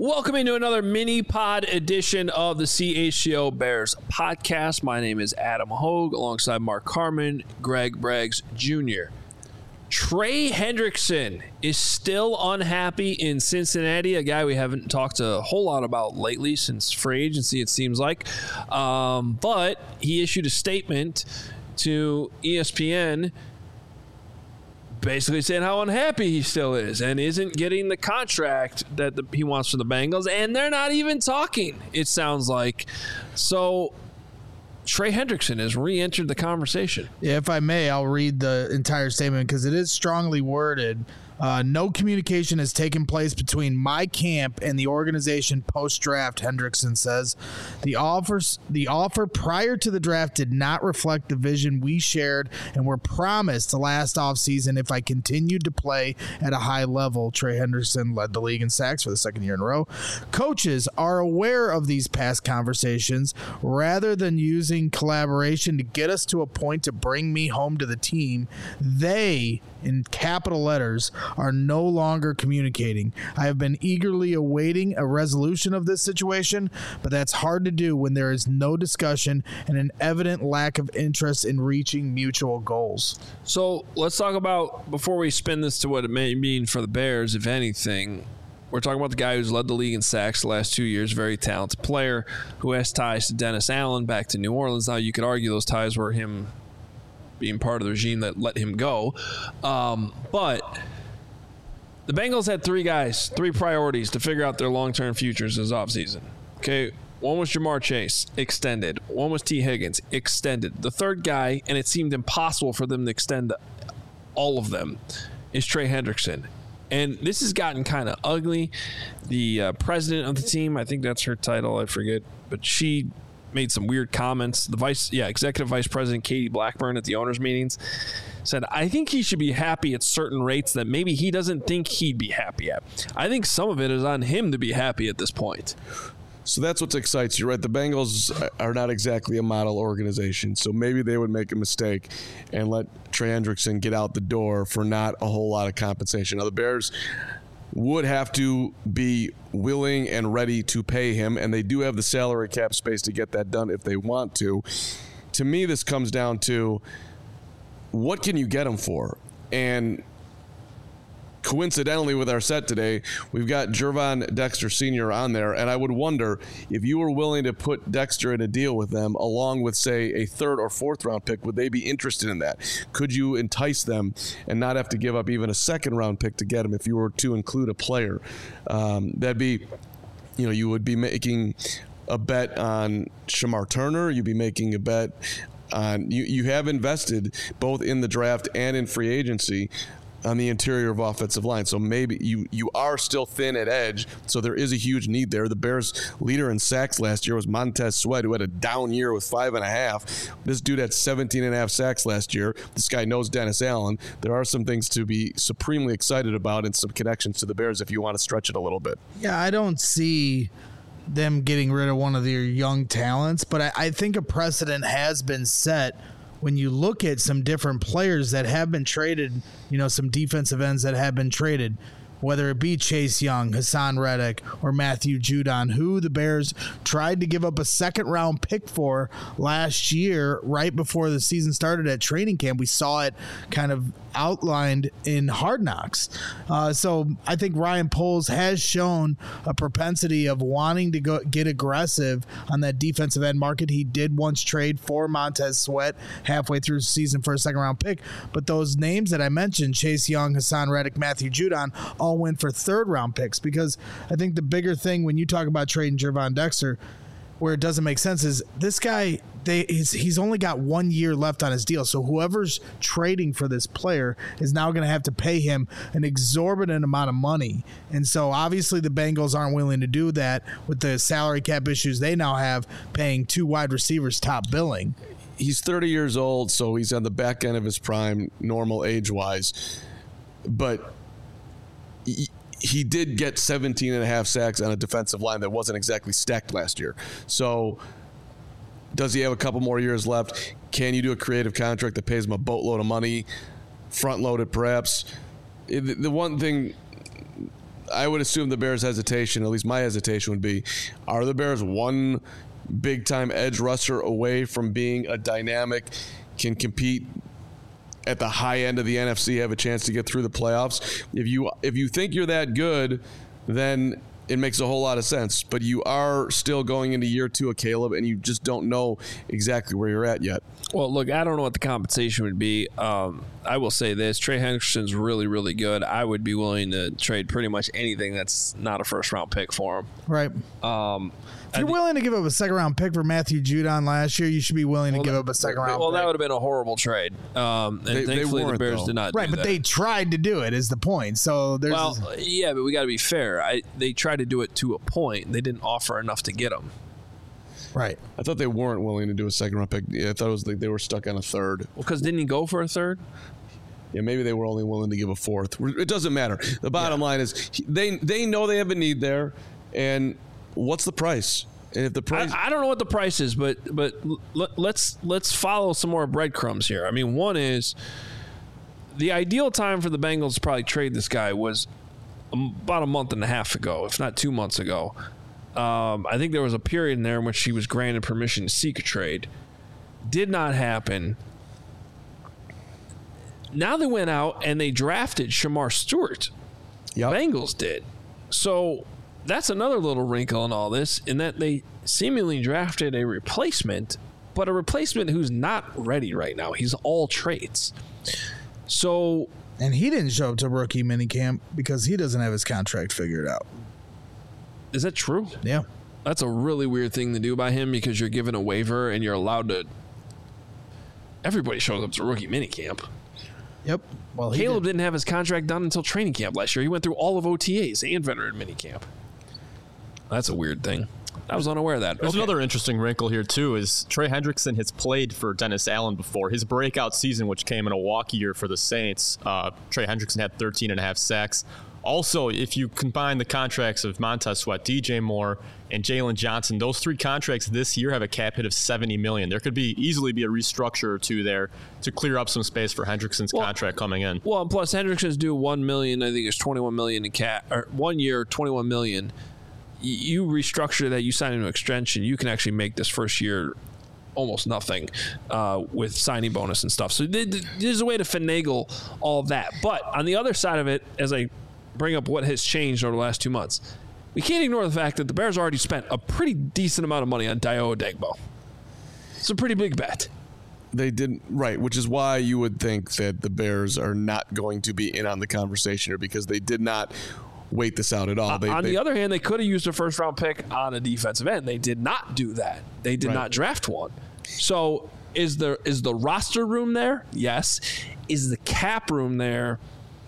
Welcome into another mini pod edition of the CHGO Bears podcast. My name is Adam Hogue alongside Mark Harmon, Greg Braggs Jr. Trey Hendrickson is still unhappy in Cincinnati, a guy we haven't talked a whole lot about lately since free agency, it seems like. But he issued a statement to ESPN basically saying how unhappy he still is and isn't getting the contract that he wants from the Bengals, and they're not even talking, it sounds like. So Trey Hendrickson has re-entered the conversation. Yeah, if I may, I'll read the entire statement because it is strongly worded. No communication has taken place between my camp and the organization post-draft, Hendrickson says. The offer prior to the draft did not reflect the vision we shared and were promised the last offseason if I continued to play at a high level. Trey Hendrickson led the league in sacks for the second year in a row. Coaches are aware of these past conversations. Rather than using collaboration to get us to a point to bring me home to the team, they, in capital letters, are no longer communicating. I have been eagerly awaiting a resolution of this situation, but that's hard to do when there is no discussion and an evident lack of interest in reaching mutual goals. So let's talk about, before we spin this to what it may mean for the Bears, if anything, we're talking about the guy who's led the league in sacks the last 2 years, very talented player who has ties to Dennis Allen back to New Orleans. Now, you could argue those ties were him being part of the regime that let him go. But the Bengals had three priorities to figure out their long-term futures this offseason. Okay, one was Jamar Chase, extended. One was T. Higgins, extended. The third guy, and it seemed impossible for them to extend all of them, is Trey Hendrickson. And this has gotten kind of ugly. The president of the team, I think that's her title, I forget, but she made some weird comments. The executive vice president, Katie Blackburn, at the owners' meetings said, I think he should be happy at certain rates that maybe he doesn't think he'd be happy at. I think some of it is on him to be happy at this point. So that's what excites you, right? The Bengals are not exactly a model organization, so maybe they would make a mistake and let Trey Hendrickson get out the door for not a whole lot of compensation. Now, the Bears would have to be willing and ready to pay him, and they do have the salary cap space to get that done if they want to. To me, this comes down to what can you get him for? And coincidentally, with our set today, we've got Gervon Dexter Sr. on there, and I would wonder if you were willing to put Dexter in a deal with them along with, say, a third or fourth round pick, would they be interested in that? Could you entice them and not have to give up even a second round pick to get him if you were to include a player? That'd be, you would be making a bet on Shamar Turner. You'd be making a bet on, you have invested both in the draft and in free agency on the interior of offensive line. So maybe you are still thin at edge, so there is a huge need there. The Bears' leader in sacks last year was Montez Sweat, who had a down year with 5.5. This dude had 17.5 sacks last year. This guy knows Dennis Allen. There are some things to be supremely excited about and some connections to the Bears if you want to stretch it a little bit. Yeah, I don't see them getting rid of one of their young talents, but I think a precedent has been set when you look at some different players that have been traded, some defensive ends that have been traded, whether it be Chase Young, Hassan Reddick, or Matthew Judon, who the Bears tried to give up a second-round pick for last year right before the season started at training camp. We saw it kind of outlined in Hard Knocks. So I think Ryan Poles has shown a propensity of wanting to get aggressive on that defensive end market. He did once trade for Montez Sweat halfway through the season for a second-round pick, but those names that I mentioned, Chase Young, Hassan Reddick, Matthew Judon, all went for third-round picks, because I think the bigger thing when you talk about trading Gervon Dexter, where it doesn't make sense, is this guy, he's only got 1 year left on his deal. So whoever's trading for this player is now going to have to pay him an exorbitant amount of money. And so obviously the Bengals aren't willing to do that with the salary cap issues they now have, paying two wide receivers top billing. He's 30 years old, so he's on the back end of his prime, normal age-wise. But he did get 17.5 sacks on a defensive line that wasn't exactly stacked last year. So does he have a couple more years left? Can you do a creative contract that pays him a boatload of money, front-loaded perhaps? The one thing I would assume the Bears' hesitation, at least my hesitation would be, are the Bears one big-time edge rusher away from being a dynamic, can compete at the high end of the NFC, have a chance to get through the playoffs? If you think you're that good, then it makes a whole lot of sense. But you are still going into year 2 of Caleb, and you just don't know exactly where you're at yet. Well, look, I don't know what the compensation would be. I will say this. Trey Hendrickson's really, really good. I would be willing to trade pretty much anything that's not a first-round pick for him. Right. If you're willing to give up a second-round pick for Matthew Judon last year, you should be willing to give up a second-round pick. Well, that would have been a horrible trade. And thankfully, the Bears did not do that. Right, but they tried to do it is the point. So there's yeah, but we got to be fair. They tried to do it to a point. They didn't offer enough to get him. Right. I thought they weren't willing to do a second-round pick. Yeah, I thought it was like they were stuck on a third. Well, because didn't he go for a third? Yeah, maybe they were only willing to give a fourth. It doesn't matter. The bottom line is they know they have a need there, and what's the price? And if the price, I don't know what the price is, but let's follow some more breadcrumbs here. I mean, one is the ideal time for the Bengals to probably trade this guy was about a month and a half ago, if not 2 months ago. I think there was a period in there in which he was granted permission to seek a trade. Did not happen. Now they went out and they drafted Shamar Stewart. Yep. Bengals did. So that's another little wrinkle in all this, in that they seemingly drafted a replacement, but a replacement who's not ready right now. He's all trades. So, and he didn't show up to rookie minicamp because he doesn't have his contract figured out. Is that true? Yeah. That's a really weird thing to do by him, because you're given a waiver and you're allowed to. Everybody shows up to rookie minicamp. Yep. Well, Caleb didn't have his contract done until training camp last year. He went through all of OTAs and veteran minicamp. That's a weird thing. I was unaware of that. There's another interesting wrinkle here, too, is Trey Hendrickson has played for Dennis Allen before. His breakout season, which came in a walk year for the Saints, Trey Hendrickson had 13.5 sacks. Also, if you combine the contracts of Montez Sweat, DJ Moore, and Jalen Johnson, those 3 contracts this year have a cap hit of $70 million. There could easily be a restructure or two there to clear up some space for Hendrickson's contract coming in. Well, and plus Hendrickson's due $1 million. I think it's $21 million in cap, or 1 year, $21 million. You restructure that, you sign into an extension, you can actually make this first year almost nothing with signing bonus and stuff. So there's a way to finagle all of that. But on the other side of it, as I bring up what has changed over the last 2 months, we can't ignore the fact that the Bears already spent a pretty decent amount of money on Dayo Odeyingbo. It's a pretty big bet. They didn't, right, which is why you would think that the Bears are not going to be in on the conversation here, because they did not wait this out at all. On the other hand, they could have used a first-round pick on a defensive end. They did not do that. They did not draft one. So is the roster room there? Yes. Is the cap room there?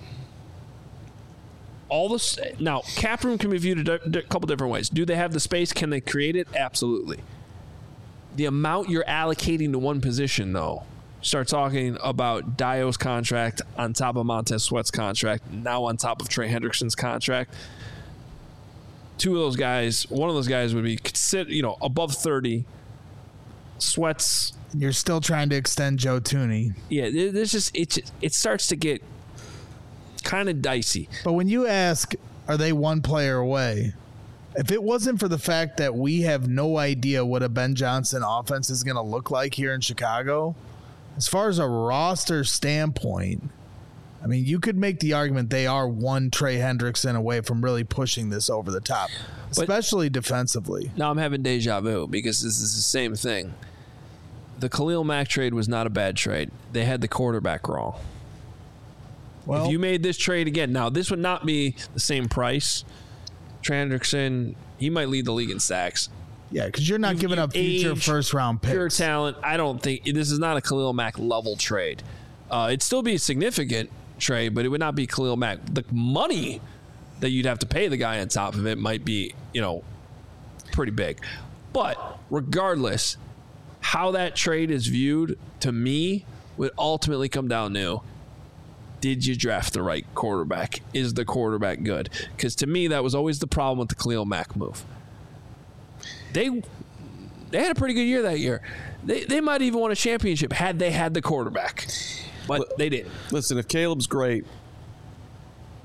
Now, cap room can be viewed a couple different ways. Do they have the space? Can they create it? Absolutely. The amount you're allocating to one position, though, start talking about Dayo's contract on top of Montez Sweat's contract, now on top of Trey Hendrickson's contract. One of those guys would be above 30. Sweat's. You're still trying to extend Joe Thuney. Yeah, it starts to get kind of dicey. But when you ask, are they one player away? If it wasn't for the fact that we have no idea what a Ben Johnson offense is going to look like here in Chicago, as far as a roster standpoint, I mean, you could make the argument they are one Trey Hendrickson away from really pushing this over the top, especially defensively. Now I'm having deja vu, because this is the same thing. The Khalil Mack trade was not a bad trade. They had the quarterback wrong. Well, if you made this trade again, now this would not be the same price. Trey Hendrickson, he might lead the league in sacks. Yeah, because you're not giving up future first-round picks. Pure talent. I don't think this is not a Khalil Mack level trade. It'd still be a significant trade, but it would not be Khalil Mack. The money that you'd have to pay the guy on top of it might be, pretty big. But regardless, how that trade is viewed, to me, would ultimately come down to, did you draft the right quarterback? Is the quarterback good? Because to me, that was always the problem with the Khalil Mack move. They had a pretty good year that year. They might even won a championship had they had the quarterback. But they didn't. Listen, if Caleb's great,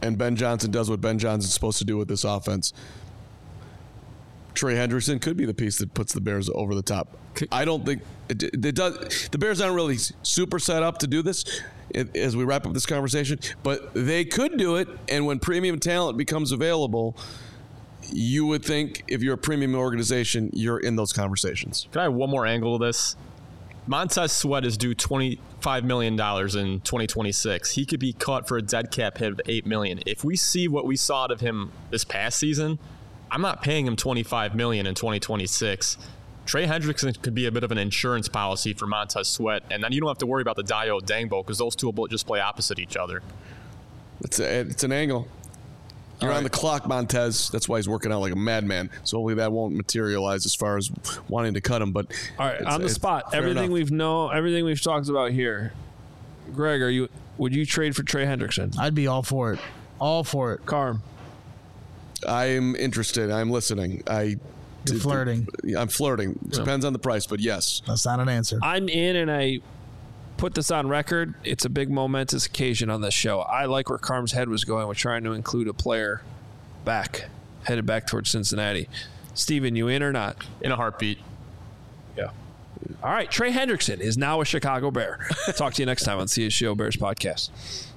and Ben Johnson does what Ben Johnson's supposed to do with this offense, Trey Hendrickson could be the piece that puts the Bears over the top. I don't think it does. The Bears aren't really super set up to do this as we wrap up this conversation, but they could do it. And when premium talent becomes available, you would think if you're a premium organization, you're in those conversations. Can I have one more angle to this? Montez Sweat is due $25 million in 2026. He could be caught for a dead cap hit of $8 million. If we see what we saw out of him this past season, I'm not paying him $25 million in 2026. Trey Hendrickson could be a bit of an insurance policy for Montez Sweat, and then you don't have to worry about the Dayo Dangbo because those two will just play opposite each other. It's an angle. You're on the clock, Montez. That's why he's working out like a madman. So hopefully that won't materialize as far as wanting to cut him. But all right, on the spot, everything we've talked about here. Greg, would you trade for Trey Hendrickson? I'd be all for it. All for it. Carm. I'm interested. I'm listening. You're flirting. I'm flirting. Depends on the price, but yes. That's not an answer. I'm in, and I put this on record. It's a big momentous occasion on this show. I like where Carm's head was going with trying to include a player headed back towards Cincinnati. Steven, you in or not? In a heartbeat. Yeah. All right. Trey Hendrickson is now a Chicago Bear. Talk to you next time on CSGO Bears Podcast.